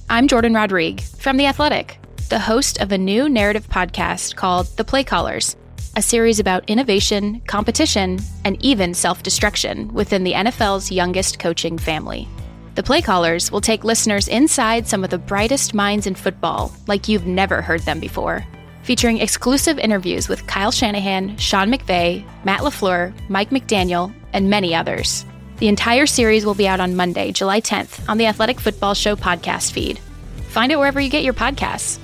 I'm Jordan Rodrigue from The Athletic, the host of a new narrative podcast called The Play Callers, a series about innovation, competition, and even self-destruction within the NFL's youngest coaching family. The Play Callers will take listeners inside some of the brightest minds in football like you've never heard them before, featuring exclusive interviews with Kyle Shanahan, Sean McVay, Matt LaFleur, Mike McDaniel, and many others. The entire series will be out on Monday, July 10th on the Athletic Football Show podcast feed. Find it wherever you get your podcasts.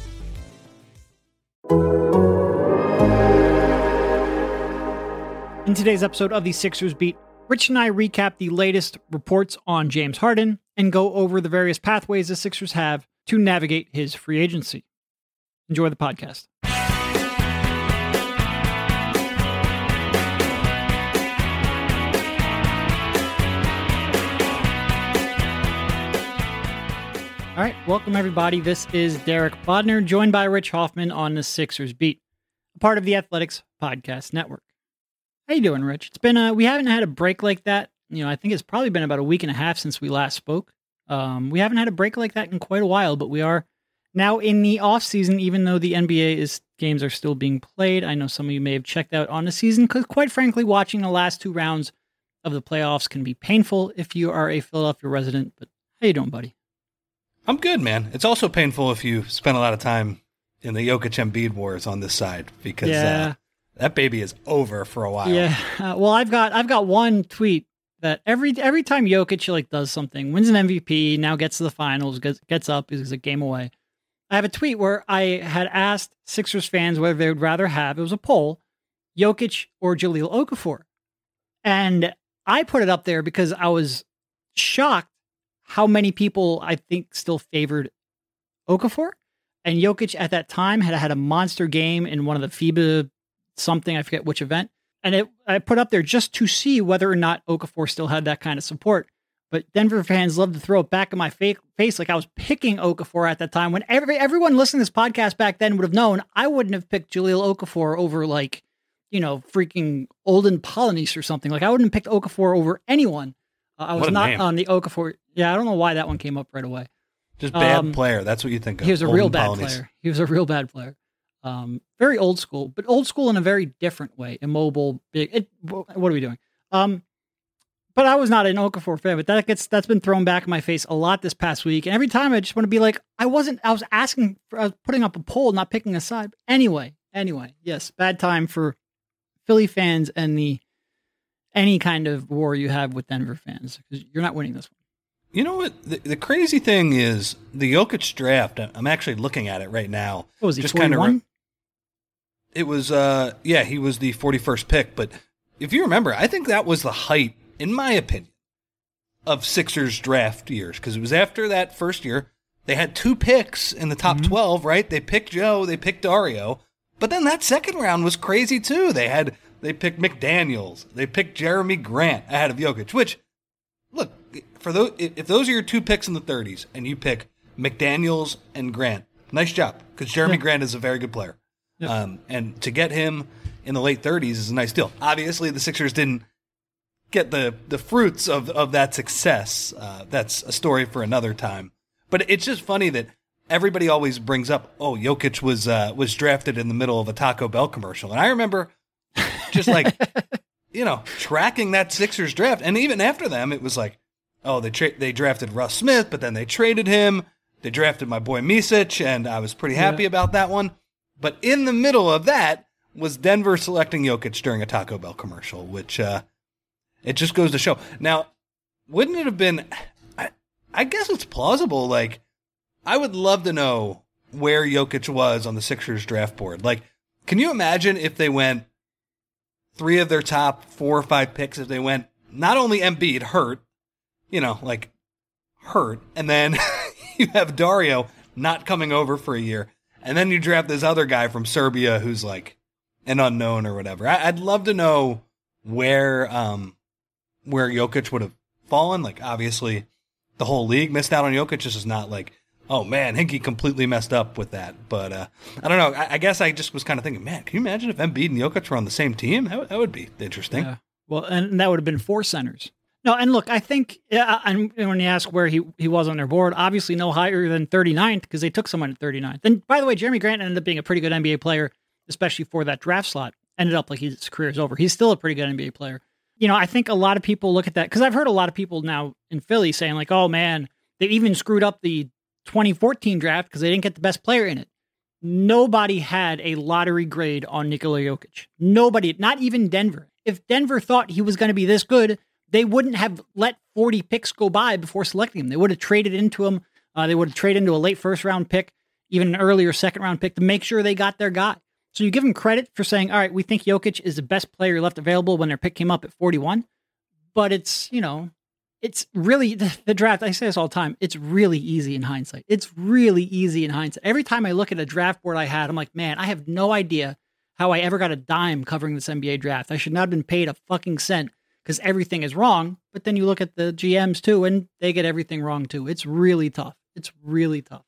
In today's episode of the Sixers Beat, Rich and I recap the latest reports on James Harden and go over the various pathways the Sixers have to navigate his free agency. Enjoy the podcast. All right, welcome everybody. This is Derek Bodner, joined by Rich Hoffman on the Sixers Beat, a part of the Athletics Podcast Network. How you doing, Rich? It's been we haven't had a break like that. I think it's probably been about a week and a half since we last spoke. We haven't had a break like that in quite a while, but we are now in the off season, even though the NBA games are still being played. I know some of you may have checked out on the season because, quite frankly, watching the last two rounds of the playoffs can be painful if you are a Philadelphia resident. But how you doing, buddy? I'm good, man. It's also painful if you spend a lot of time in the Jokic-Embiid wars on this side because that baby is over for a while. Yeah. Well, I've got one tweet that every time Jokic does something, wins an MVP, now gets to the finals, gets up, is a game away. I have a tweet where I had asked Sixers fans whether they would rather have, it was a poll, Jokic or Jahlil Okafor. And I put it up there because I was shocked how many people I think still favored Okafor. And Jokic at that time had a monster game in one of the FIBA something, I forget which event. And I put up there just to see whether or not Okafor still had that kind of support. But Denver fans love to throw it back in my face like I was picking Okafor at that time. When everyone listening to this podcast back then would have known, I wouldn't have picked Jahlil Okafor over freaking Olden Polynice or something. I wouldn't have picked Okafor over anyone. I was not on the Okafor. Yeah, I don't know why that one came up right away. Just bad player. That's what you think of. He was a real bad player. He was a real bad player. Very old school, but old school in a very different way. Immobile, big. What are we doing? But I was not an Okafor fan, but that's been thrown back in my face a lot this past week. And every time I just want to be like, I was putting up a poll, not picking a side. Anyway, yes, bad time for Philly fans and any kind of war you have with Denver fans, because you're not winning this one. You know what? The crazy thing is the Jokic draft. I'm actually looking at it right now. What was he, 41? It was, he was the 41st pick. But if you remember, I think that was the height, in my opinion, of Sixers draft years, because it was after that first year. They had two picks in the top 12, right? They picked Joe, they picked Dario. But then that second round was crazy too. They picked McDaniels. They picked Jeremy Grant ahead of Jokic, which, look, if those are your two picks in the 30s and you pick McDaniels and Grant, nice job, because Jeremy Grant is a very good player. Yep. And to get him in the late 30s is a nice deal. Obviously, the Sixers didn't get the fruits of that success. That's a story for another time. But it's just funny that everybody always brings up, Jokic was drafted in the middle of a Taco Bell commercial. And I remember just tracking that Sixers draft. And even after them, it was like, they drafted Russ Smith, but then they traded him. They drafted my boy Micic, and I was pretty happy about that one. But in the middle of that was Denver selecting Jokic during a Taco Bell commercial, which it just goes to show. Now, wouldn't it have been, I guess it's plausible, I would love to know where Jokic was on the Sixers draft board. Can you imagine if they went 3 of their top 4 or 5 picks, if they went not only Embiid hurt, hurt, and then you have Dario not coming over for a year, and then you draft this other guy from Serbia who's an unknown or whatever. I'd love to know where Jokic would have fallen. Obviously, the whole league missed out on Jokic. This is not oh man, Hinkie completely messed up with that. But I don't know. I guess I just was kind of thinking, man, can you imagine if Embiid and Jokic were on the same team? That would be interesting. Yeah. Well, and that would have been 4 centers. No, and look, I think, and when you ask where he was on their board, obviously no higher than 39th because they took someone at 39th. And by the way, Jeremy Grant ended up being a pretty good NBA player, especially for that draft slot. Ended up like his career is over. He's still a pretty good NBA player. You know, I think a lot of people look at that because I've heard a lot of people now in Philly saying like, oh man, they even screwed up the 2014 draft because they didn't get the best player in it. Nobody had a lottery grade on Nikola Jokic. Nobody, not even Denver. If Denver thought he was going to be this good, they wouldn't have let 40 picks go by before selecting him. They would have traded into him. They would have traded into a late first round pick, even an earlier second round pick to make sure they got their guy. So you give them credit for saying, all right, we think Jokic is the best player left available when their pick came up at 41. But it's, you know, it's really the draft. I say this all the time. It's really easy in hindsight. It's really easy in hindsight. Every time I look at a draft board I had, I'm like, man, I have no idea how I ever got a dime covering this NBA draft. I should not have been paid a fucking cent because everything is wrong. But then you look at the GMs too, and they get everything wrong too. It's really tough. It's really tough.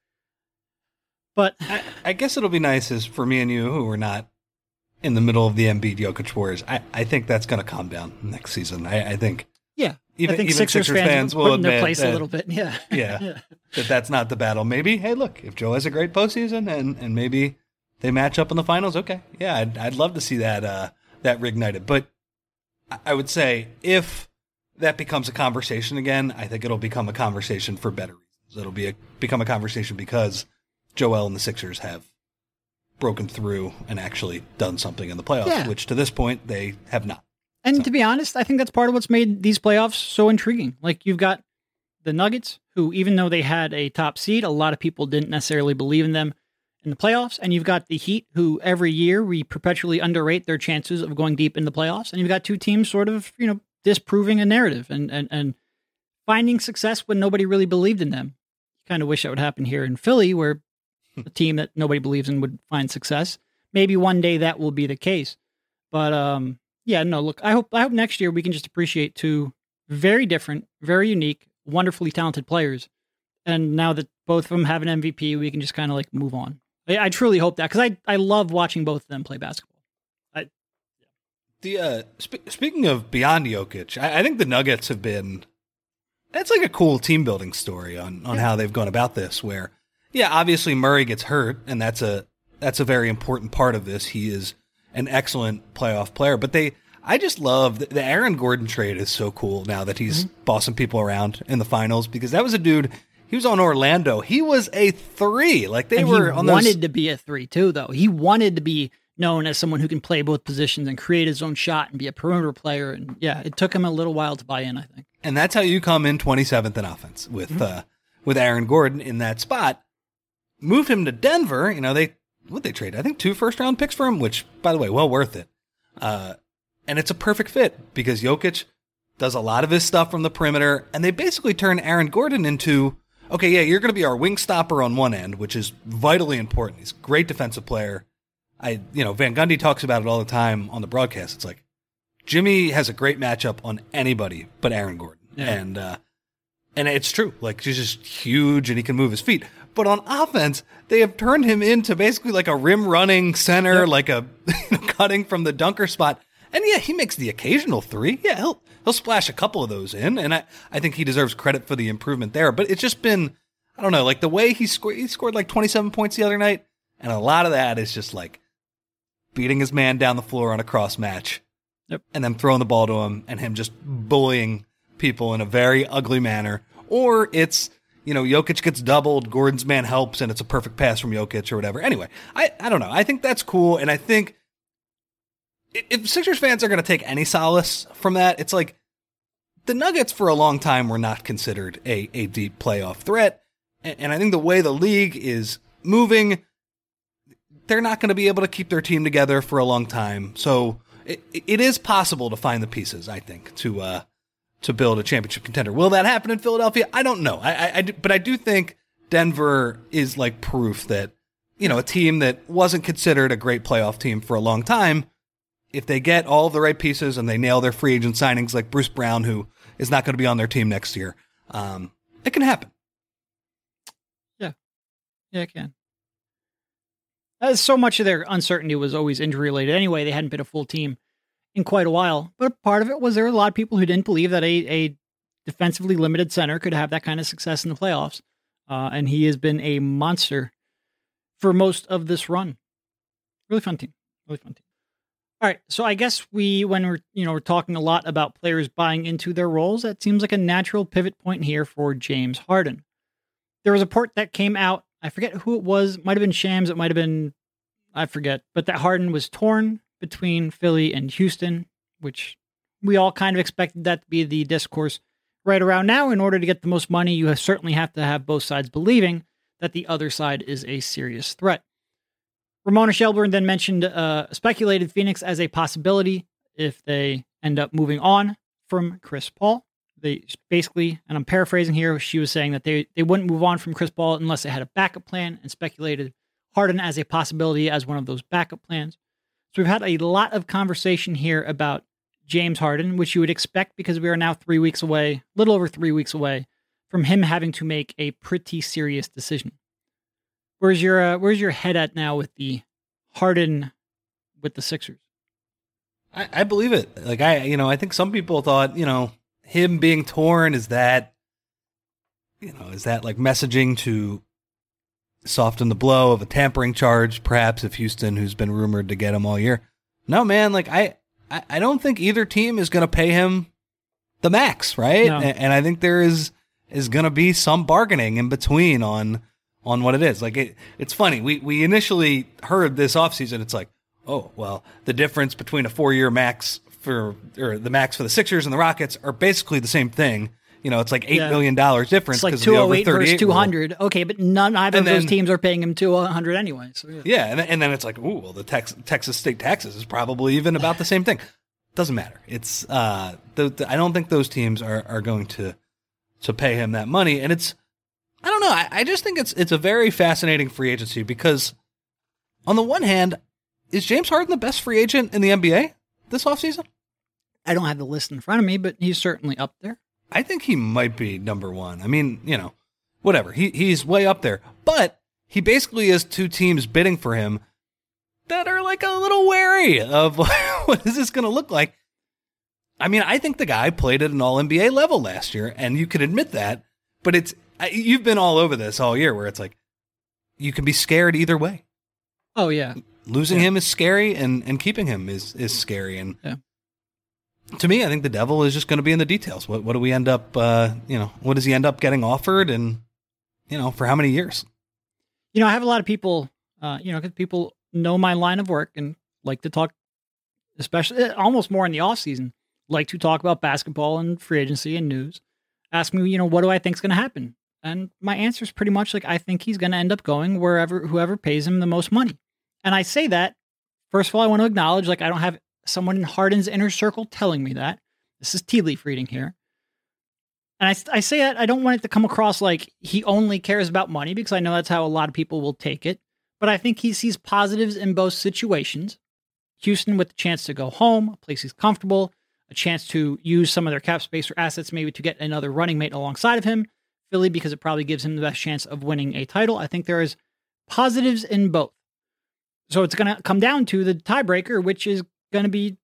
But I guess it'll be nice is for me and you who are not in the middle of the Embiid Jokic wars. I think that's going to calm down next season. I think. Yeah. Even Sixers fans will put in admit their place that, a little bit. Yeah. Yeah. That's not the battle. Maybe, hey, look, if Joe has a great postseason and maybe they match up in the finals, okay. Yeah, I'd love to see that reignited. But I would say if that becomes a conversation again, I think it'll become a conversation for better reasons. It'll become a conversation because Joel and the Sixers have broken through and actually done something in the playoffs, which to this point they have not. And to be honest, I think that's part of what's made these playoffs so intriguing. Like you've got the Nuggets, who even though they had a top seed, a lot of people didn't necessarily believe in them in the playoffs. And you've got the Heat, who every year we perpetually underrate their chances of going deep in the playoffs. And you've got two teams sort of, you know, disproving a narrative and finding success when nobody really believed in them. You kind of wish that would happen here in Philly, where a team that nobody believes in would find success. Maybe one day that will be the case. But yeah, no, look, I hope next year we can just appreciate two very different, very unique, wonderfully talented players. And now that both of them have an MVP, we can just kind of like move on. I truly hope that because I love watching both of them play basketball. Speaking of beyond Jokic, I think the Nuggets have been, that's like a cool team building story on how they've gone about this where, yeah, obviously Murray gets hurt and that's a very important part of this. He is an excellent playoff player, but I just love the Aaron Gordon trade is so cool now that he's bossing people around in the finals because that was a dude, he was on Orlando. He was a 3. Like they were on those. He wanted to be a 3 too, though. He wanted to be known as someone who can play both positions and create his own shot and be a perimeter player. And yeah, it took him a little while to buy in, I think. And that's how you come in 27th in offense with Aaron Gordon in that spot. Moved him to Denver. You know, they trade? I think 2 first-round picks for him, which, by the way, well worth it. And it's a perfect fit because Jokic does a lot of his stuff from the perimeter, and they basically turn Aaron Gordon into, okay, yeah, you're going to be our wing stopper on one end, which is vitally important. He's a great defensive player. Van Gundy talks about it all the time on the broadcast. It's like Jimmy has a great matchup on anybody but Aaron Gordon. Yeah. And it's true. Like, he's just huge and he can move his feet. But on offense, they have turned him into basically like a rim running center, like a cutting from the dunker spot. And yeah, he makes the occasional 3. Yeah, he'll splash a couple of those in. And I think he deserves credit for the improvement there. But it's just been, I don't know, like the way he scored like 27 points the other night. And a lot of that is just like beating his man down the floor on a cross match. Yep. And then throwing the ball to him and him just bullying people in a very ugly manner. Or it's, Jokic gets doubled, Gordon's man helps, and it's a perfect pass from Jokic or whatever. Anyway, I don't know. I think that's cool. And I think if Sixers fans are going to take any solace from that, it's like the Nuggets for a long time were not considered a deep playoff threat. And I think the way the league is moving, they're not going to be able to keep their team together for a long time. So it is possible to find the pieces, I think, to build a championship contender. Will that happen in Philadelphia? I don't know. But I do think Denver is like proof that, a team that wasn't considered a great playoff team for a long time, if they get all of the right pieces and they nail their free agent signings like Bruce Brown, who is not going to be on their team next year, it can happen. Yeah, it can. So much of their uncertainty was always injury related. Anyway, they hadn't been a full team in quite a while. But part of it was there were a lot of people who didn't believe that a defensively limited center could have that kind of success in the playoffs. And he has been a monster for most of this run. Really fun team. Really fun team. All right. So I guess when we're talking a lot about players buying into their roles, that seems like a natural pivot point here for James Harden. There was a report that came out. I forget who it was. It might have been Shams. It might have been, I forget. But that Harden was torn between Philly and Houston, which we all kind of expected that to be the discourse right around now. In order to get the most money, you certainly have to have both sides believing that the other side is a serious threat. Ramona Shelburne then mentioned speculated Phoenix as a possibility if they end up moving on from Chris Paul. They basically, and I'm paraphrasing here, she was saying that they wouldn't move on from Chris Paul unless they had a backup plan, and speculated Harden as a possibility as one of those backup plans. So we've had a lot of conversation here about James Harden, which you would expect because we are now 3 weeks away, a little over 3 weeks away, from him having to make a pretty serious decision. Where's your head at now with the Harden with the Sixers? I believe it. Like I think some people thought, him being torn is that like messaging to soften the blow of a tampering charge, perhaps if Houston, who's been rumored to get him all year. No, man, like I don't think either team is going to pay him the max, right? No. And I think there is going to be some bargaining in between on what it is. Like it's funny. We initially heard this offseason, it's like, oh, well, the difference between a 4-year max or the max for the Sixers and the Rockets are basically the same thing. It's like $8 million difference. It's like 208 versus 200. Rule. Okay, but neither of those teams are paying him 200 anyway. So yeah, and then it's like, ooh, well, the Texas state taxes is probably even about the same thing. Doesn't matter. It's I don't think those teams are going to pay him that money, and it's. I don't know. I just think it's a very fascinating free agency because, on the one hand, is James Harden the best free agent in the NBA this offseason? I don't have the list in front of me, but he's certainly up there. I think he might be number one. I mean, whatever. He's way up there. But he basically has two teams bidding for him that are like a little wary of what is this going to look like. I mean, I think the guy played at an all-NBA level last year, and you can admit that, but you've been all over this all year where it's like, you can be scared either way. Oh, yeah. Losing him is scary, and keeping him is scary. And to me, I think the devil is just going to be in the details. What do we end up, what does he end up getting offered, and, for how many years? I have a lot of people, because people know my line of work and like to talk, especially almost more in the off season, like to talk about basketball and free agency and news. Ask me, what do I think is going to happen? And my answer is pretty much like, I think he's going to end up going whoever pays him the most money. And I say that, first of all, I want to acknowledge, like, I don't have someone in Harden's inner circle telling me that. This is tea leaf reading here. And I say that, I don't want it to come across like he only cares about money, because I know that's how a lot of people will take it. But I think he sees positives in both situations. Houston with the chance to go home, a place he's comfortable, a chance to use some of their cap space or assets maybe to get another running mate alongside of him. Philly, because it probably gives him the best chance of winning a title. I think there is positives in both. So it's going to come down to the tiebreaker, which is going to be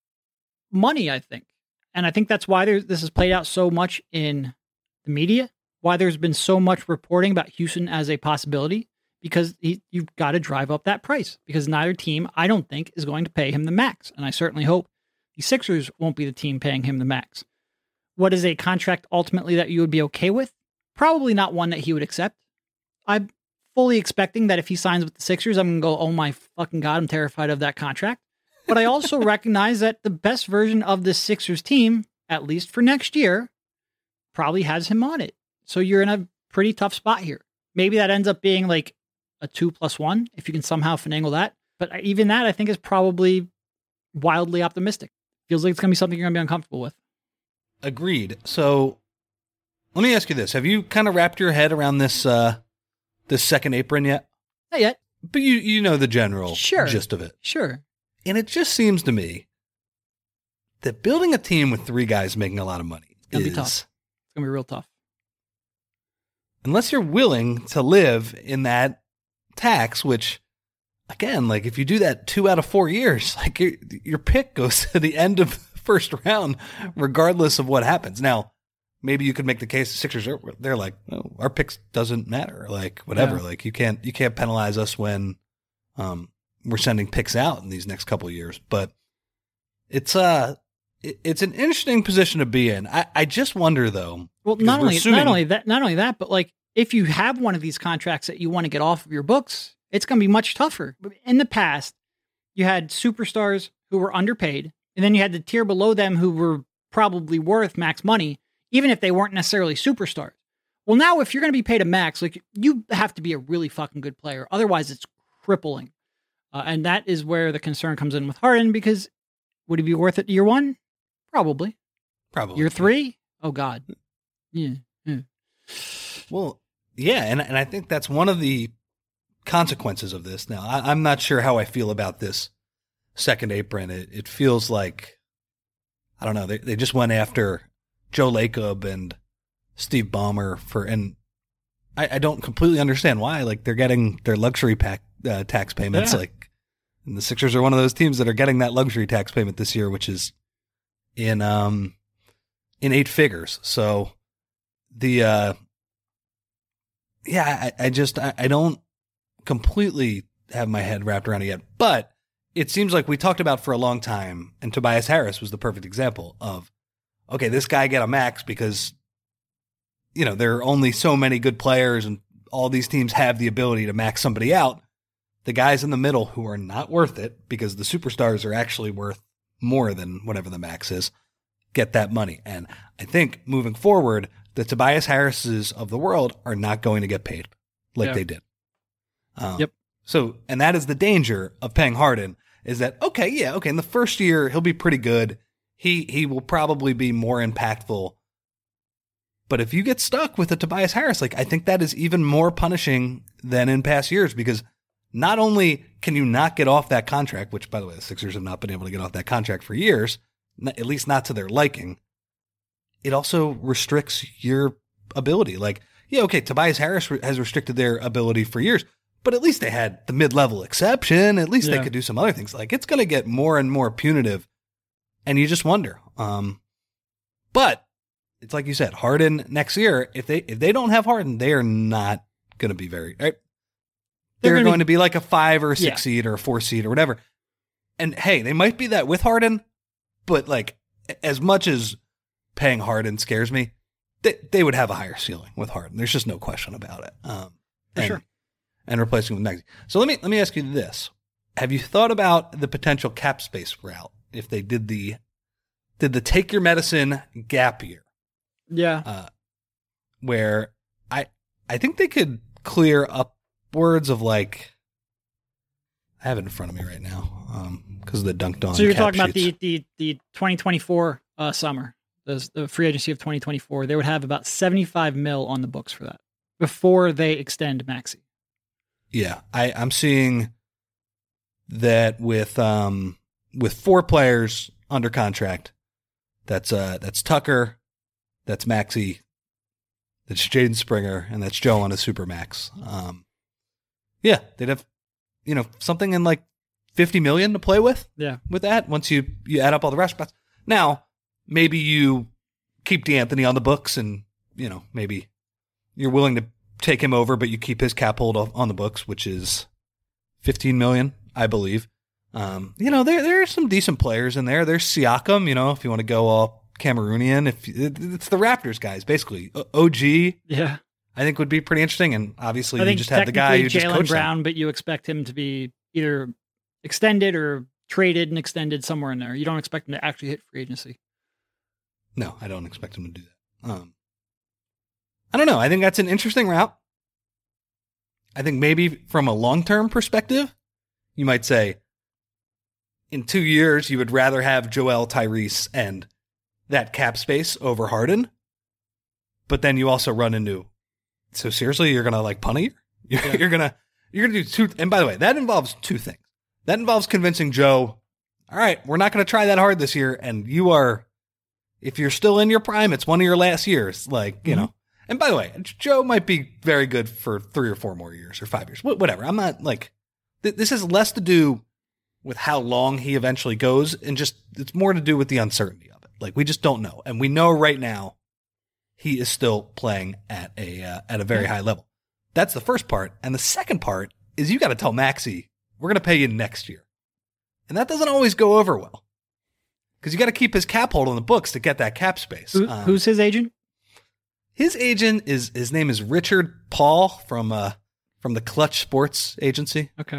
money, I think. And I think that's why this has played out so much in the media, why there's been so much reporting about Houston as a possibility, because you've got to drive up that price, because neither team, I don't think, is going to pay him the max. And I certainly hope the Sixers won't be the team paying him the max. What is a contract ultimately that you would be okay with? Probably not one that he would accept. I'm fully expecting that if he signs with the Sixers, I'm going to go, oh my fucking God, I'm terrified of that contract. But I also recognize that the best version of the Sixers team, at least for next year, probably has him on it. So you're in a pretty tough spot here. Maybe that ends up being like a 2+1, if you can somehow finagle that. But even that, I think, is probably wildly optimistic. Feels like it's going to be something you're going to be uncomfortable with. Agreed. So let me ask you this. Have you kind of wrapped your head around this second apron yet? Not yet. But you know the general gist of it. Sure. And it just seems to me that building a team with three guys making a lot of money is going to be tough. It's going to be real tough. Unless you're willing to live in that tax, which again, like if you do that 2 out of 4 years, like your pick goes to the end of the first round, regardless of what happens. Now, maybe you could make the case the Sixers they're like, oh, our picks doesn't matter, like whatever. Yeah. Like you can't penalize us when we're sending picks out in these next couple of years. But it's an interesting position to be in. I just wonder though. Well, not only that, but like if you have one of these contracts that you want to get off of your books, it's going to be much tougher. In the past, you had superstars who were underpaid, and then you had the tier below them who were probably worth max money, even if they weren't necessarily superstars. Well, now if you're going to be paid a max, like you have to be a really fucking good player. Otherwise, it's crippling. And that is where the concern comes in with Harden, because would he be worth it year 1? Probably. Year 3? Oh, God. Yeah. Well, yeah, and I think that's one of the consequences of this. Now, I'm not sure how I feel about this second apron. It feels like, I don't know, they just went after Joe Lacob and Steve Ballmer and I don't completely understand why. Like they're getting their luxury tax payments, like, and the Sixers are one of those teams that are getting that luxury tax payment this year, which is in 8 figures. So I don't completely have my head wrapped around it yet, but it seems like we talked about for a long time, and Tobias Harris was the perfect example of, okay, this guy get a max because, there are only so many good players and all these teams have the ability to max somebody out. The guys in the middle who are not worth it because the superstars are actually worth more than whatever the max is, get that money. And I think moving forward, the Tobias Harrises of the world are not going to get paid like they did. Yep. So, and that is the danger of paying Harden, is that, okay, in the first year, he'll be pretty good. He will probably be more impactful. But if you get stuck with a Tobias Harris, like I think that is even more punishing than in past years, because not only can you not get off that contract, which by the way, the Sixers have not been able to get off that contract for years, at least not to their liking, it also restricts your ability. Like, Tobias Harris has restricted their ability for years, but at least they had the mid-level exception. At least they could do some other things. Like it's going to get more and more punitive, and you just wonder. But it's like you said, Harden next year, if they don't have Harden, they are not going to be very right. They're going to be like a 5 or a 6 seed or a 4 seed or whatever. And hey, they might be that with Harden, but like as much as paying Harden scares me, they would have a higher ceiling with Harden. There's just no question about it. For sure. And replacing with Maxey. So let me ask you this: have you thought about the potential cap space route if they did the take your medicine gap year? Yeah. Where I think they could clear upwards of like, I have it in front of me right now because of the Dunked On. So you're talking sheets. About the 2024 summer, the free agency of 2024. They would have about $75 million on the books for that before they extend Maxey. Yeah, I'm seeing that with 4 players under contract. That's Tucker, that's Maxey, that's Jaden Springer, and that's Joe on a supermax. They'd have something in like $50 million to play with. Yeah, with that once you add up all the rest spots. Now maybe you keep D'Anthony on the books, and maybe you're willing to take him over, but you keep his cap hold on the books, which is $15 million, I believe. There are some decent players in there. There's Siakam, if you want to go all Cameroonian. It's the Raptors guys, basically. OG, yeah, I think would be pretty interesting. And obviously, you just have the guy who just coached Brown, them. but you expect him to be either extended or traded and extended somewhere in there. You don't expect him to actually hit free agency. No, I don't expect him to do that. I don't know. I think that's an interesting route. I think maybe from a long-term perspective, you might say in 2 years, you would rather have Joel, Tyrese, and that cap space over Harden. But then you also run into, so seriously, you're going to like punt it? You're going to do 2. And by the way, that involves 2 things. That involves convincing Joe, all right, we're not going to try that hard this year. And you are, if you're still in your prime, it's one of your last years. Like, and by the way, Joe might be very good for 3 or 4 more years or 5 years, whatever. I'm not like This has less to do with how long he eventually goes, and just it's more to do with the uncertainty of it. Like, we just don't know, and we know right now he is still playing at a very high level. That's the first part, and the second part is you got to tell Maxey, we're going to pay you next year, and that doesn't always go over well because you got to keep his cap hold on the books to get that cap space. Who's his agent? His agent his name is Richard Paul from the Clutch Sports Agency. Okay.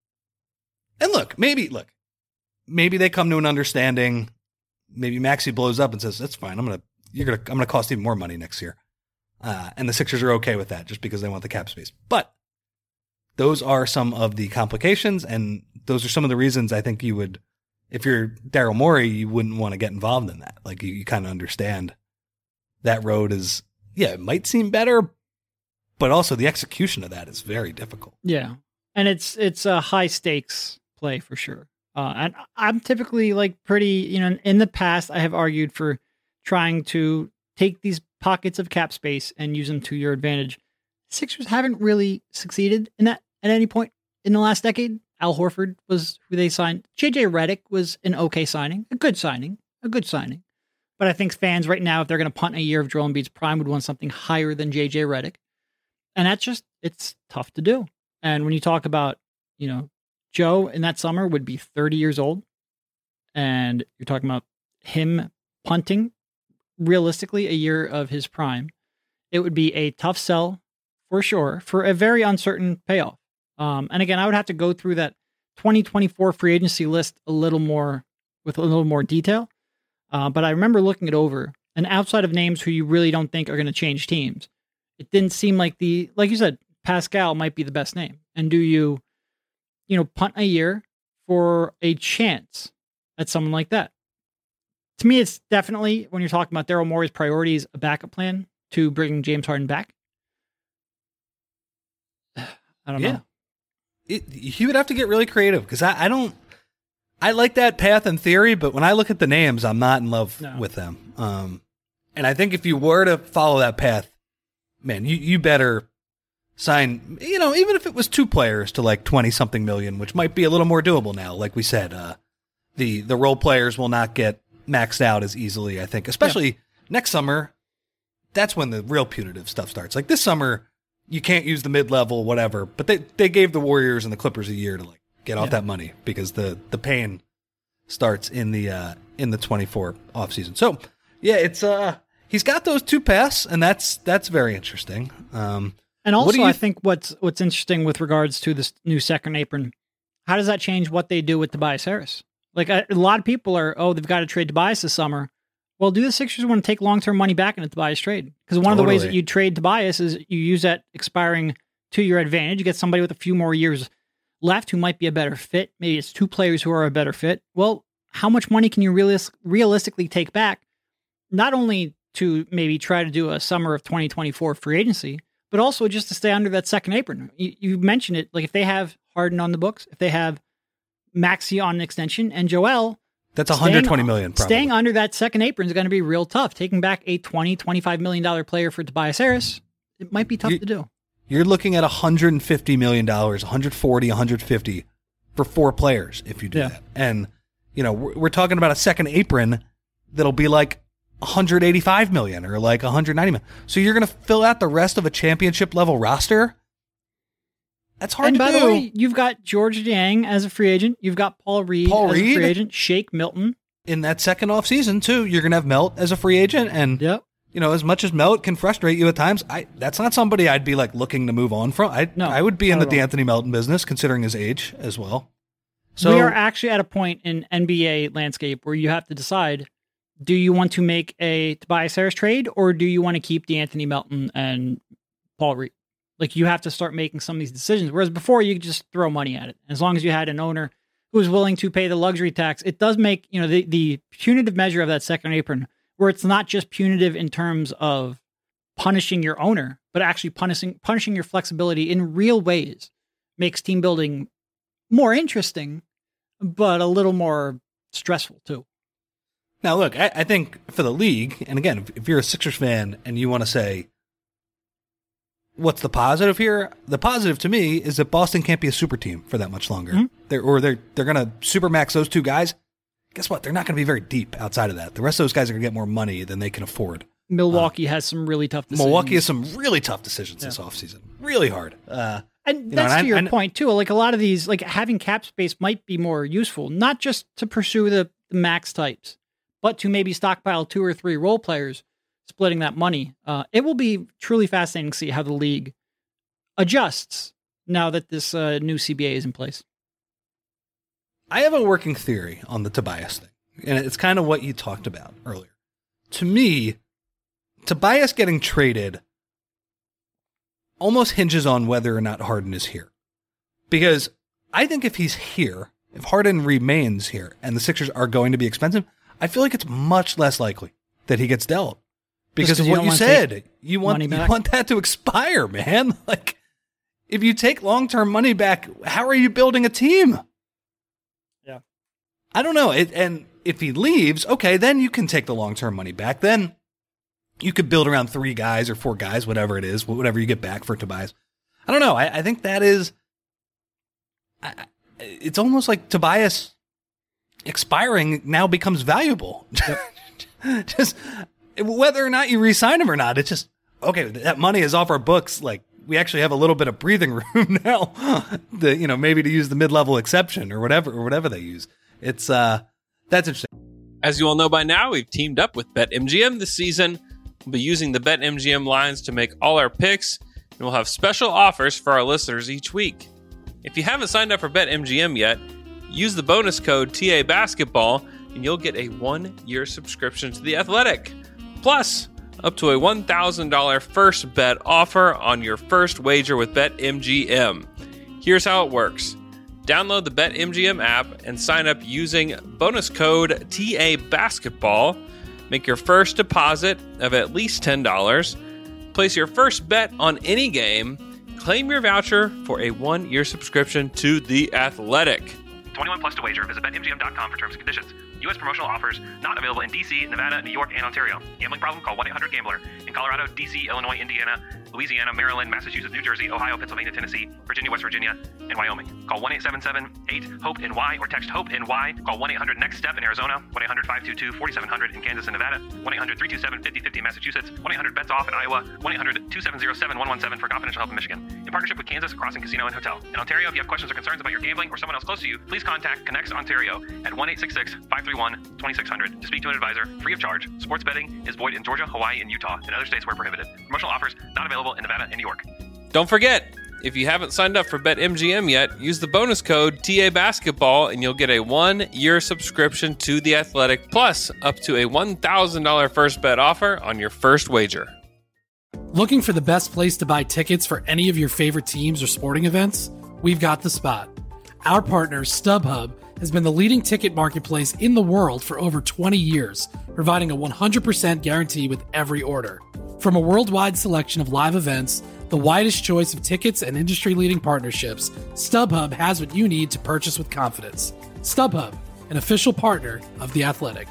And maybe they come to an understanding. Maybe Maxey blows up and says, "That's fine. I'm gonna cost even more money next year," and the Sixers are okay with that just because they want the cap space. But those are some of the complications, and those are some of the reasons I think you would, if you're Daryl Morey, you wouldn't want to get involved in that. Like, you kind of understand that road is, it might seem better, but also the execution of that is very difficult. Yeah, and it's a high stakes play for sure. And I'm typically like pretty, in the past, I have argued for trying to take these pockets of cap space and use them to your advantage. Sixers haven't really succeeded in that at any point in the last decade. Al Horford was who they signed. JJ Redick was an okay signing, a good signing. But I think fans right now, if they're going to punt a year of Joel Embiid's prime, would want something higher than JJ Redick. And it's tough to do. And when you talk about, Joe in that summer would be 30 years old, and you're talking about him punting realistically a year of his prime, it would be a tough sell for sure for a very uncertain payoff. And again, I would have to go through that 2024 free agency list with a little more detail. But I remember looking it over, and outside of names who you really don't think are going to change teams, it didn't seem like like you said, Pascal might be the best name. And do you punt a year for a chance at someone like that? To me, it's definitely, when you're talking about Daryl Morey's priorities, a backup plan to bring James Harden back. I don't know. He would have to get really creative, because I like that path in theory, but when I look at the names, I'm not in love with them. And I think if you were to follow that path, man, you better sign, even if it was two players to like 20-something million, which might be a little more doable now. Like we said, the role players will not get maxed out as easily, I think, especially next summer. That's when the real punitive stuff starts. Like this summer, you can't use the mid-level, whatever, but they gave the Warriors and the Clippers a year to like get off that money, because the pain starts in the 24 offseason. So it's he's got those two paths, and that's very interesting. And also, I think what's interesting with regards to this new second apron, how does that change what they do with Tobias Harris? Like, a lot of people are, they've got to trade Tobias this summer. Well, do the Sixers want to take long-term money back in a Tobias trade? Because one of the ways that you trade Tobias is you use that expiring to your advantage. You get somebody with a few more years left who might be a better fit. Maybe it's two players who are a better fit. Well, how much money can you realistically take back? Not only to maybe try to do a summer of 2024 free agency, but also just to stay under that second apron. You mentioned it, like if they have Harden on the books, if they have Maxey on an extension, and Joel, that's $120 million. Probably. Staying under that second apron is going to be real tough. Taking back a $25 million player for Tobias Harris, it might be tough to do. You're looking at $150 million, $140, $150 for four players if you do that. And, we're talking about a second apron that'll be like $185 million or like $190 million. So you're going to fill out the rest of a championship level roster? That's hard to do. And by the way, you've got George Niang as a free agent. You've got Paul Reed as a free agent. Shake Milton. In that second offseason, too, you're going to have Melt as a free agent. And, as much as Melt can frustrate you at times, that's not somebody I'd be like looking to move on from. I would be in the D'Anthony Melton business, considering his age as well. So we are actually at a point in NBA landscape where you have to decide, do you want to make a Tobias Harris trade, or do you want to keep D'Anthony Melton and Paul Reed? Like, you have to start making some of these decisions. Whereas before, you could just throw money at it. As long as you had an owner who was willing to pay the luxury tax, it does make, the punitive measure of that second apron, where it's not just punitive in terms of punishing your owner, but actually punishing your flexibility in real ways, makes team building more interesting, but a little more stressful too. Now, look, I think for the league, and again, if you're a Sixers fan and you want to say, what's the positive here? The positive to me is that Boston can't be a super team for that much longer. Mm-hmm. They're going to supermax those two guys. Guess what? They're not going to be very deep outside of that. The rest of those guys are going to get more money than they can afford. Milwaukee has some really tough decisions. Milwaukee has some really tough decisions this offseason. Really hard. And that's to your point, too. Like, a lot of these, like, having cap space might be more useful, not just to pursue the max types, but to maybe stockpile 2 or 3 role players, splitting that money. It will be truly fascinating to see how the league adjusts now that this new CBA is in place. I have a working theory on the Tobias thing, and it's kind of what you talked about earlier. To me, Tobias getting traded almost hinges on whether or not Harden is here. Because I think if he's here, if Harden remains here, and the Sixers are going to be expensive, I feel like it's much less likely that he gets dealt. Because of what you said. You want that to expire, man. Like, if you take long-term money back, how are you building a team? Yeah. I don't know. And if he leaves, okay, then you can take the long-term money back. Then you could build around 3 guys or 4 guys, whatever it is, whatever you get back for Tobias. I don't know. I think that is... it's almost like Tobias expiring now becomes valuable. Yep. Just whether or not you re-sign him or not, it's just, okay, that money is off our books. Like, we actually have a little bit of breathing room now, maybe to use the mid-level exception or whatever they use. It's that's interesting. As you all know by now, we've teamed up with BetMGM this season. We'll be using the BetMGM lines to make all our picks, and we'll have special offers for our listeners each week. If you haven't signed up for BetMGM yet, use the bonus code TA Basketball, and you'll get a 1-year subscription to The Athletic. Plus, up to a $1,000 first bet offer on your first wager with BetMGM. Here's how it works. Download the BetMGM app and sign up using bonus code TA Basketball. Make your first deposit of at least $10. Place your first bet on any game. Claim your voucher for a 1-year subscription to The Athletic. 21 plus to wager. Visit BetMGM.com for terms and conditions. U.S. promotional offers not available in D.C., Nevada, New York, and Ontario. Gambling problem? Call 1-800-GAMBLER. In Colorado, D.C., Illinois, Indiana, Louisiana, Maryland, Massachusetts, New Jersey, Ohio, Pennsylvania, Tennessee, Virginia, West Virginia, and Wyoming. Call 1-877-8-HOPE-NY or text HOPE-NY. Call 1-800-NEXT-STEP in Arizona, 1-800-522-4700 in Kansas and Nevada, 1-800-327-5050 in Massachusetts, 1-800-BETS-OFF in Iowa, 1-800-270-7117 for confidential help in Michigan. In partnership with Kansas Crossing Casino and Hotel. In Ontario, if you have questions or concerns about your gambling or someone else close to you, please contact Connects Ontario at 1-866-531-2600 to speak to an advisor free of charge. Sports betting is void in Georgia, Hawaii, and Utah, and other states where prohibited. Promotional offers not available in Nevada and New York. Don't forget, if you haven't signed up for BetMGM yet, use the bonus code TA Basketball and you'll get a 1-year subscription to The Athletic, plus up to a $1,000 first bet offer on your first wager. Looking for the best place to buy tickets for any of your favorite teams or sporting events? We've got the spot. Our partner, StubHub, has been the leading ticket marketplace in the world for over 20 years, providing a 100% guarantee with every order. From a worldwide selection of live events, the widest choice of tickets and industry-leading partnerships, StubHub has what you need to purchase with confidence. StubHub, an official partner of The Athletic.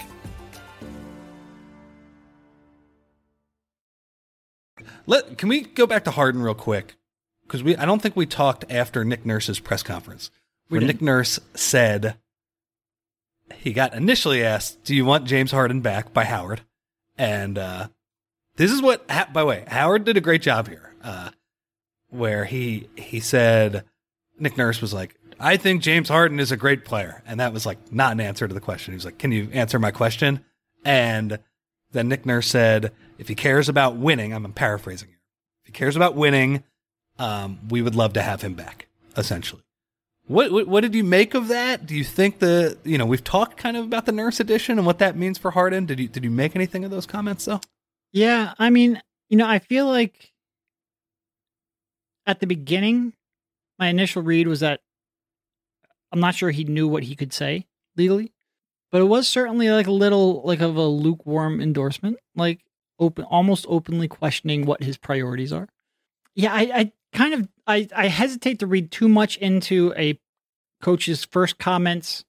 Can we go back to Harden real quick? Because I don't think we talked after Nick Nurse's press conference. Where Nick Nurse said he got initially asked, do you want James Harden back by Howard? And this is what, by the way, Howard did a great job here, where he said, Nick Nurse was like, I think James Harden is a great player. And that was like not an answer to the question. He was like, can you answer my question? And then Nick Nurse said, if he cares about winning, I'm paraphrasing here. If he cares about winning, we would love to have him back, essentially. What did you make of that? Do you think we've talked kind of about the Nurse edition and what that means for Harden? Did you make anything of those comments though? Yeah, I mean, I feel like at the beginning, my initial read was that I'm not sure he knew what he could say legally, but it was certainly like a little like of a lukewarm endorsement, like almost openly questioning what his priorities are. Yeah, I hesitate to read too much into a coach's first comments,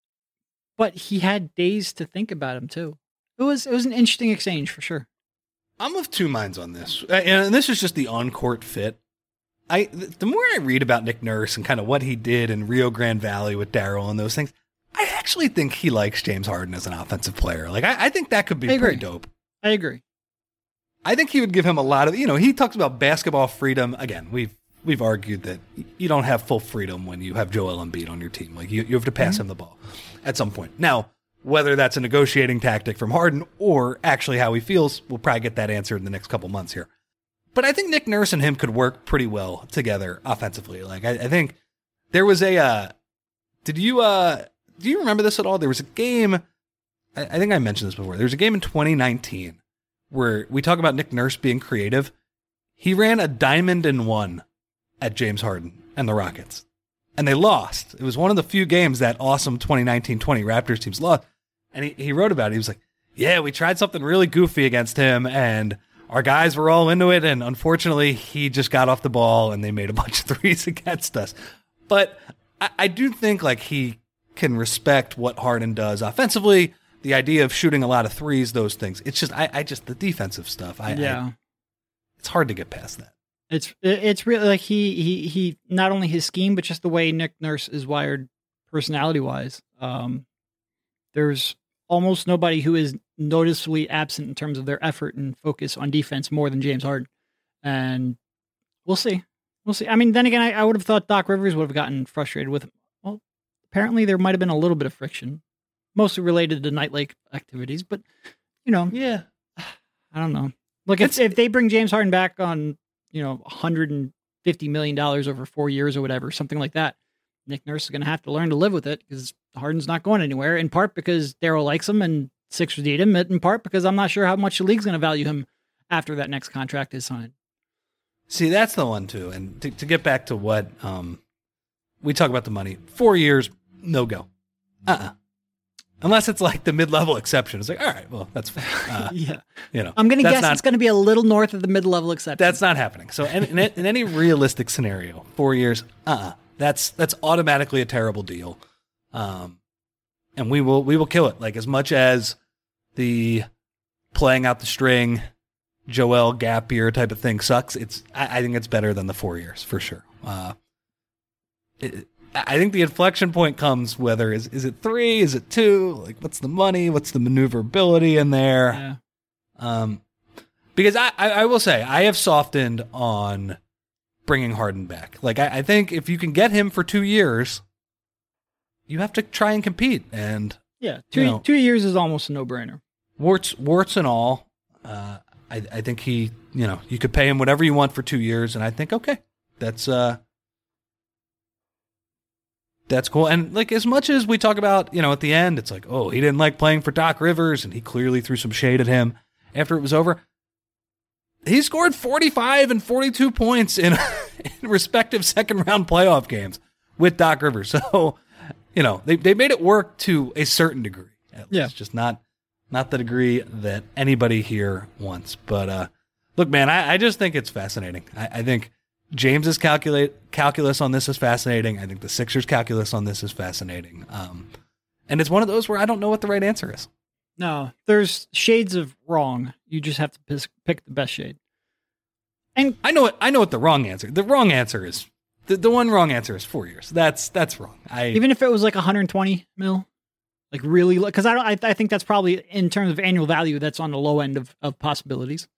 but he had days to think about him too. It was an interesting exchange for sure. I'm of two minds on this. And this is just the on-court fit. The more I read about Nick Nurse and kind of what he did in Rio Grande Valley with Daryl and those things, I actually think he likes James Harden as an offensive player. Like, I think that could be pretty dope. I agree. I think he would give him a lot of, he talks about basketball freedom. Again, we've argued that you don't have full freedom when you have Joel Embiid on your team. Like, you have to pass him the ball at some point. Now, whether that's a negotiating tactic from Harden or actually how he feels, we'll probably get that answer in the next couple months here. But I think Nick Nurse and him could work pretty well together offensively. Like, I think there was do you remember this at all? There was a game, I think I mentioned this before. There was a game in 2019 where we talk about Nick Nurse being creative. He ran a diamond and one at James Harden and the Rockets, and they lost. It was one of the few games that awesome 2019-20 Raptors teams lost. And he wrote about it. He was like, yeah, we tried something really goofy against him, and our guys were all into it, and unfortunately, he just got off the ball, and they made a bunch of threes against us. But I do think like he can respect what Harden does offensively, the idea of shooting a lot of threes, those things. It's just I just the defensive stuff. It's hard to get past that. It's really like he not only his scheme, but just the way Nick Nurse is wired personality wise. There's almost nobody who is noticeably absent in terms of their effort and focus on defense more than James Harden. And we'll see. I mean, then again, I would have thought Doc Rivers would have gotten frustrated with him. Well, apparently there might have been a little bit of friction, mostly related to Night Lake activities, but yeah, I don't know. Look, if they bring James Harden back on, $150 million over 4 years or whatever, something like that, Nick Nurse is going to have to learn to live with it because Harden's not going anywhere, in part because Daryl likes him and Sixers need him, in part because I'm not sure how much the league's going to value him after that next contract is signed. See, that's the one too. And to get back to what we talk about the money, 4 years, no go. Unless it's like the mid-level exception. It's like, all right, well, that's fine. Yeah. I'm going to guess it's going to be a little north of the mid-level exception. That's not happening. So in any realistic scenario, 4 years, that's automatically a terrible deal. And we will kill it. Like, as much as the playing out the string, Joel gap year type of thing sucks, I think it's better than the 4 years for sure. I think the inflection point comes whether is it 3, is it 2? Like, what's the money? What's the maneuverability in there? Yeah. Because I will say I have softened on bringing Harden back. Like, I think if you can get him for 2 years, you have to try and compete. And yeah, 2 years is almost a no-brainer. Warts and all. I think he, you could pay him whatever you want for 2 years, and I think okay, that's cool. And like, as much as we talk about, at the end, it's like, oh, he didn't like playing for Doc Rivers, and he clearly threw some shade at him after it was over. He scored 45 and 42 points in respective second-round playoff games with Doc Rivers. So, they made it work to a certain degree. At least, just not the degree that anybody here wants. But look, man, I just think it's fascinating. I think James's calculus on this is fascinating. I think the Sixers' calculus on this is fascinating. And it's one of those where I don't know what the right answer is. No, there's shades of wrong. You just have to pick the best shade. And I know what the wrong answer. The wrong answer is the one wrong answer is 4 years. That's wrong. Even if it was like 120 mil, like really, because I think that's probably, in terms of annual value, that's on the low end of possibilities.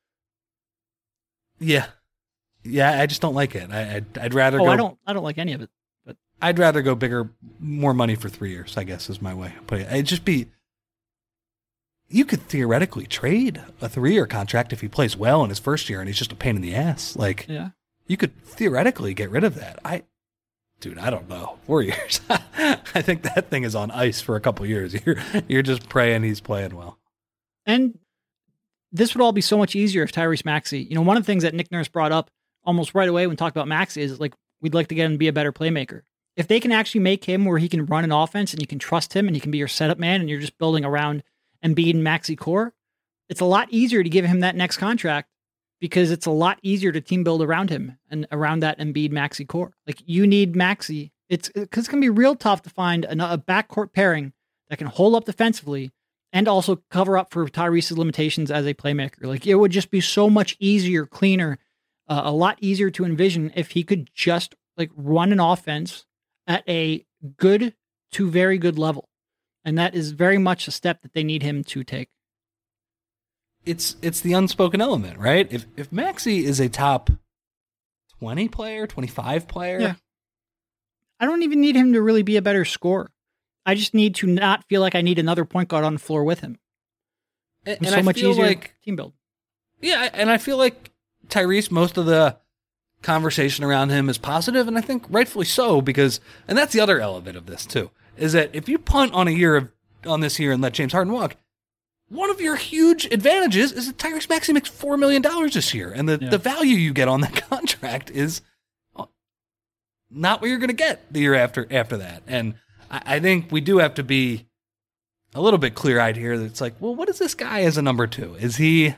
Yeah. I just don't like it. I'd rather go. I don't like any of it. But I'd rather go bigger, more money for 3 years, I guess is my way of putting it. It'd just be, you could theoretically trade a 3-year contract if he plays well in his first year and he's just a pain in the ass. Like, you could theoretically get rid of that. I don't know. 4 years. I think that thing is on ice for a couple years. You're just praying he's playing well. And this would all be so much easier if Tyrese Maxey, one of the things that Nick Nurse brought up almost right away when talked about Maxey is like, we'd like to get him to be a better playmaker. If they can actually make him where he can run an offense and you can trust him and he can be your setup man and you're just building around Embiid and Maxey core, it's a lot easier to give him that next contract because it's a lot easier to team build around him and around that Embiid Maxey core. Like, you need Maxey. It's going to be real tough to find a backcourt pairing that can hold up defensively and also cover up for Tyrese's limitations as a playmaker. Like, it would just be so much easier, cleaner, a lot easier to envision if he could just like run an offense at a good to very good level. And that is very much a step that they need him to take. It's the unspoken element, right? If Maxey is a top 20 player, 25 player. Yeah. I don't even need him to really be a better scorer. I just need to not feel like I need another point guard on the floor with him. And so I much feel easier like, team build. Yeah, and I feel like Tyrese, most of the conversation around him is positive, and I think rightfully so, because, and that's the other element of this too, is that if you punt on this year and let James Harden walk, one of your huge advantages is that Tyrese Maxey makes $4 million this year, and the value you get on that contract is not what you're going to get the year after that. And I think we do have to be a little bit clear-eyed here. That it's like, well, what is this guy as a number two? Is he,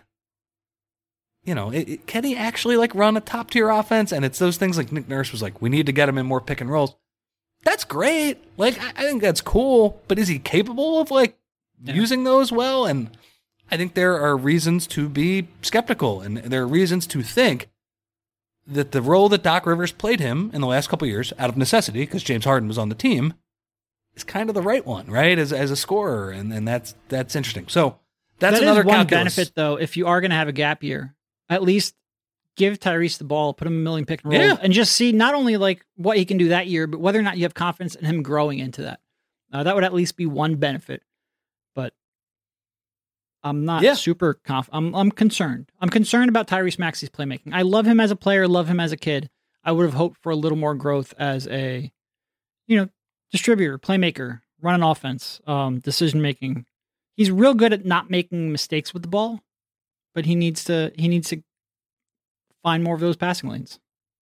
can he actually like run a top-tier offense? And it's those things like Nick Nurse was like, we need to get him in more pick and rolls. That's great. Like, I think that's cool, but is he capable of like using those well? And I think there are reasons to be skeptical, and there are reasons to think that the role that Doc Rivers played him in the last couple of years, out of necessity, because James Harden was on the team, is kind of the right one, right? As a scorer, and that's interesting. So that's another one calculus. benefit, though. If you are going to have a gap year, at least give Tyrese the ball, put him in a million pick and roll, and just see not only like what he can do that year, but whether or not you have confidence in him growing into that. That would at least be one benefit. But I'm not super confident. I'm concerned. I'm concerned about Tyrese Maxey's playmaking. I love him as a player, love him as a kid. I would have hoped for a little more growth as a, distributor, playmaker, run an offense, decision making. He's real good at not making mistakes with the ball, but he needs to find more of those passing lanes.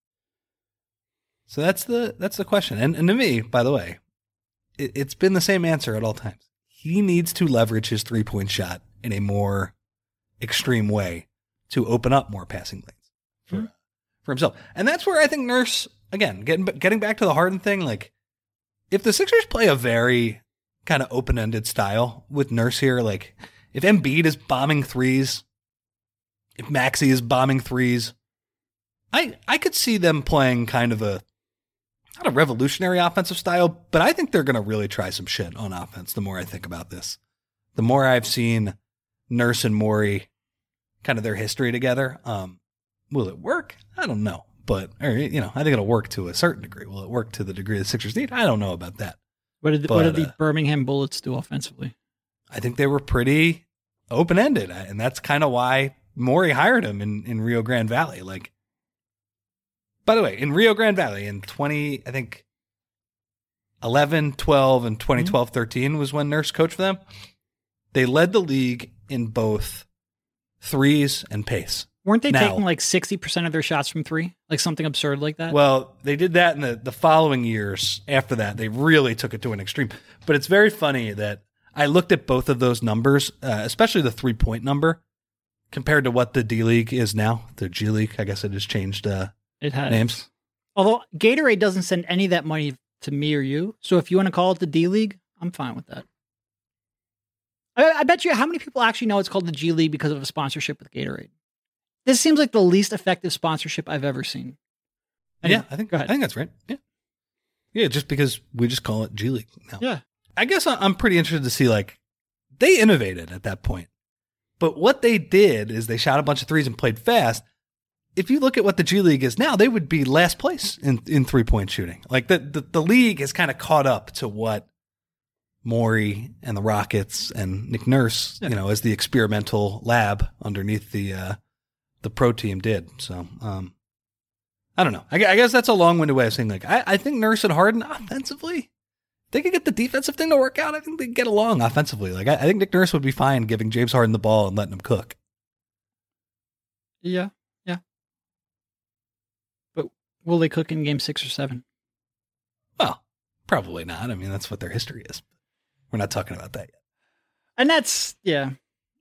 So that's the question. And to me, by the way, it's been the same answer at all times. He needs to leverage his 3-point shot in a more extreme way to open up more passing lanes for himself. And that's where I think Nurse, again, getting back to the Harden thing, like, if the Sixers play a very kind of open-ended style with Nurse here, like if Embiid is bombing threes, if Maxey is bombing threes, I could see them playing kind of not a revolutionary offensive style, but I think they're going to really try some shit on offense the more I think about this. The more I've seen Nurse and Morey, kind of their history together, will it work? I don't know. But, I think it'll work to a certain degree. Will it work to the degree the Sixers need? I don't know about that. What did the Birmingham Bullets do offensively? I think they were pretty open-ended, and that's kind of why Morey hired him in Rio Grande Valley. Like, by the way, in Rio Grande Valley in 11, 12, and 2012, 13 was when Nurse coached for them. They led the league in both threes and pace. Weren't they taking like 60% of their shots from three? Like something absurd like that? Well, they did that in the following years after that. They really took it to an extreme. But it's very funny that I looked at both of those numbers, especially the 3-point number, compared to what the D-League is now. The G-League, I guess it has changed names. Although Gatorade doesn't send any of that money to me or you. So if you want to call it the D-League, I'm fine with that. I bet you how many people actually know it's called the G-League because of a sponsorship with Gatorade? This seems like the least effective sponsorship I've ever seen. Anyway, I think that's right. Yeah, just because we just call it G League now. Yeah, I guess I'm pretty interested to see, like, they innovated at that point, but what they did is they shot a bunch of threes and played fast. If you look at what the G League is now, they would be last place in 3-point shooting. Like the league has kind of caught up to what Morey and the Rockets and Nick Nurse, as the experimental lab underneath the pro team did. So, I don't know. I guess that's a long-winded way of saying, like, I think Nurse and Harden offensively, they could get the defensive thing to work out. I think they could get along offensively. Like, I think Nick Nurse would be fine giving James Harden the ball and letting him cook. Yeah. But will they cook in game 6 or 7? Well, probably not. I mean, that's what their history is. We're not talking about that yet. And that's, yeah.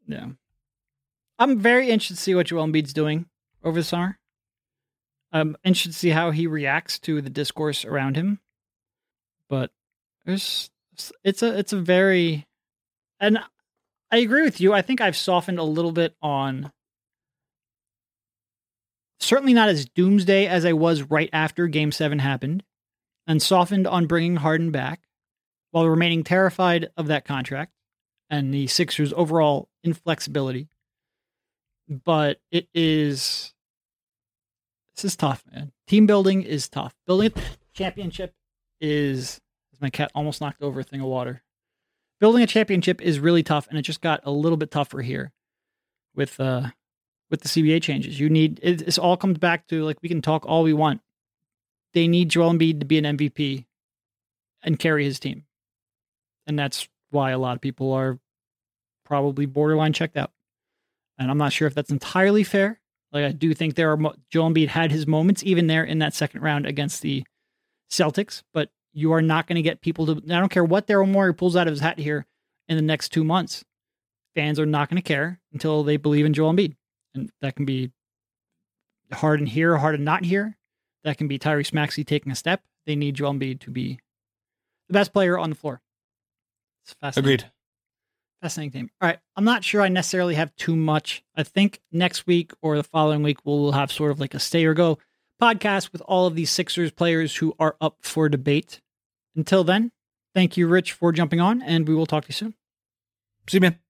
I'm very interested to see what Joel Embiid's doing over the summer. I'm interested to see how he reacts to the discourse around him. But it's a very, and I agree with you. I think I've softened a little bit on, certainly not as doomsday as I was right after Game 7 happened, and softened on bringing Harden back while remaining terrified of that contract and the Sixers' overall inflexibility. But this is tough, man. Team building is tough. Building a championship is, as my cat almost knocked over a thing of water. Building a championship is really tough, and it just got a little bit tougher here with the CBA changes. This all comes back to, like, we can talk all we want. They need Joel Embiid to be an MVP and carry his team. And that's why a lot of people are probably borderline checked out. And I'm not sure if that's entirely fair. Like, I do think Joel Embiid had his moments, even there in that second round against the Celtics, but you are not going to get people to, I don't care what Daryl Morey pulls out of his hat here in the next 2 months. Fans are not going to care until they believe in Joel Embiid. And that can be Harden here or Harden not here. That can be Tyrese Maxey taking a step. They need Joel Embiid to be the best player on the floor. It's fascinating. Agreed. Fascinating team. All right. I'm not sure I necessarily have too much. I think next week or the following week, we'll have sort of like a stay or go podcast with all of these Sixers players who are up for debate. Until then, thank you, Rich, for jumping on, and we will talk to you soon. See you, man.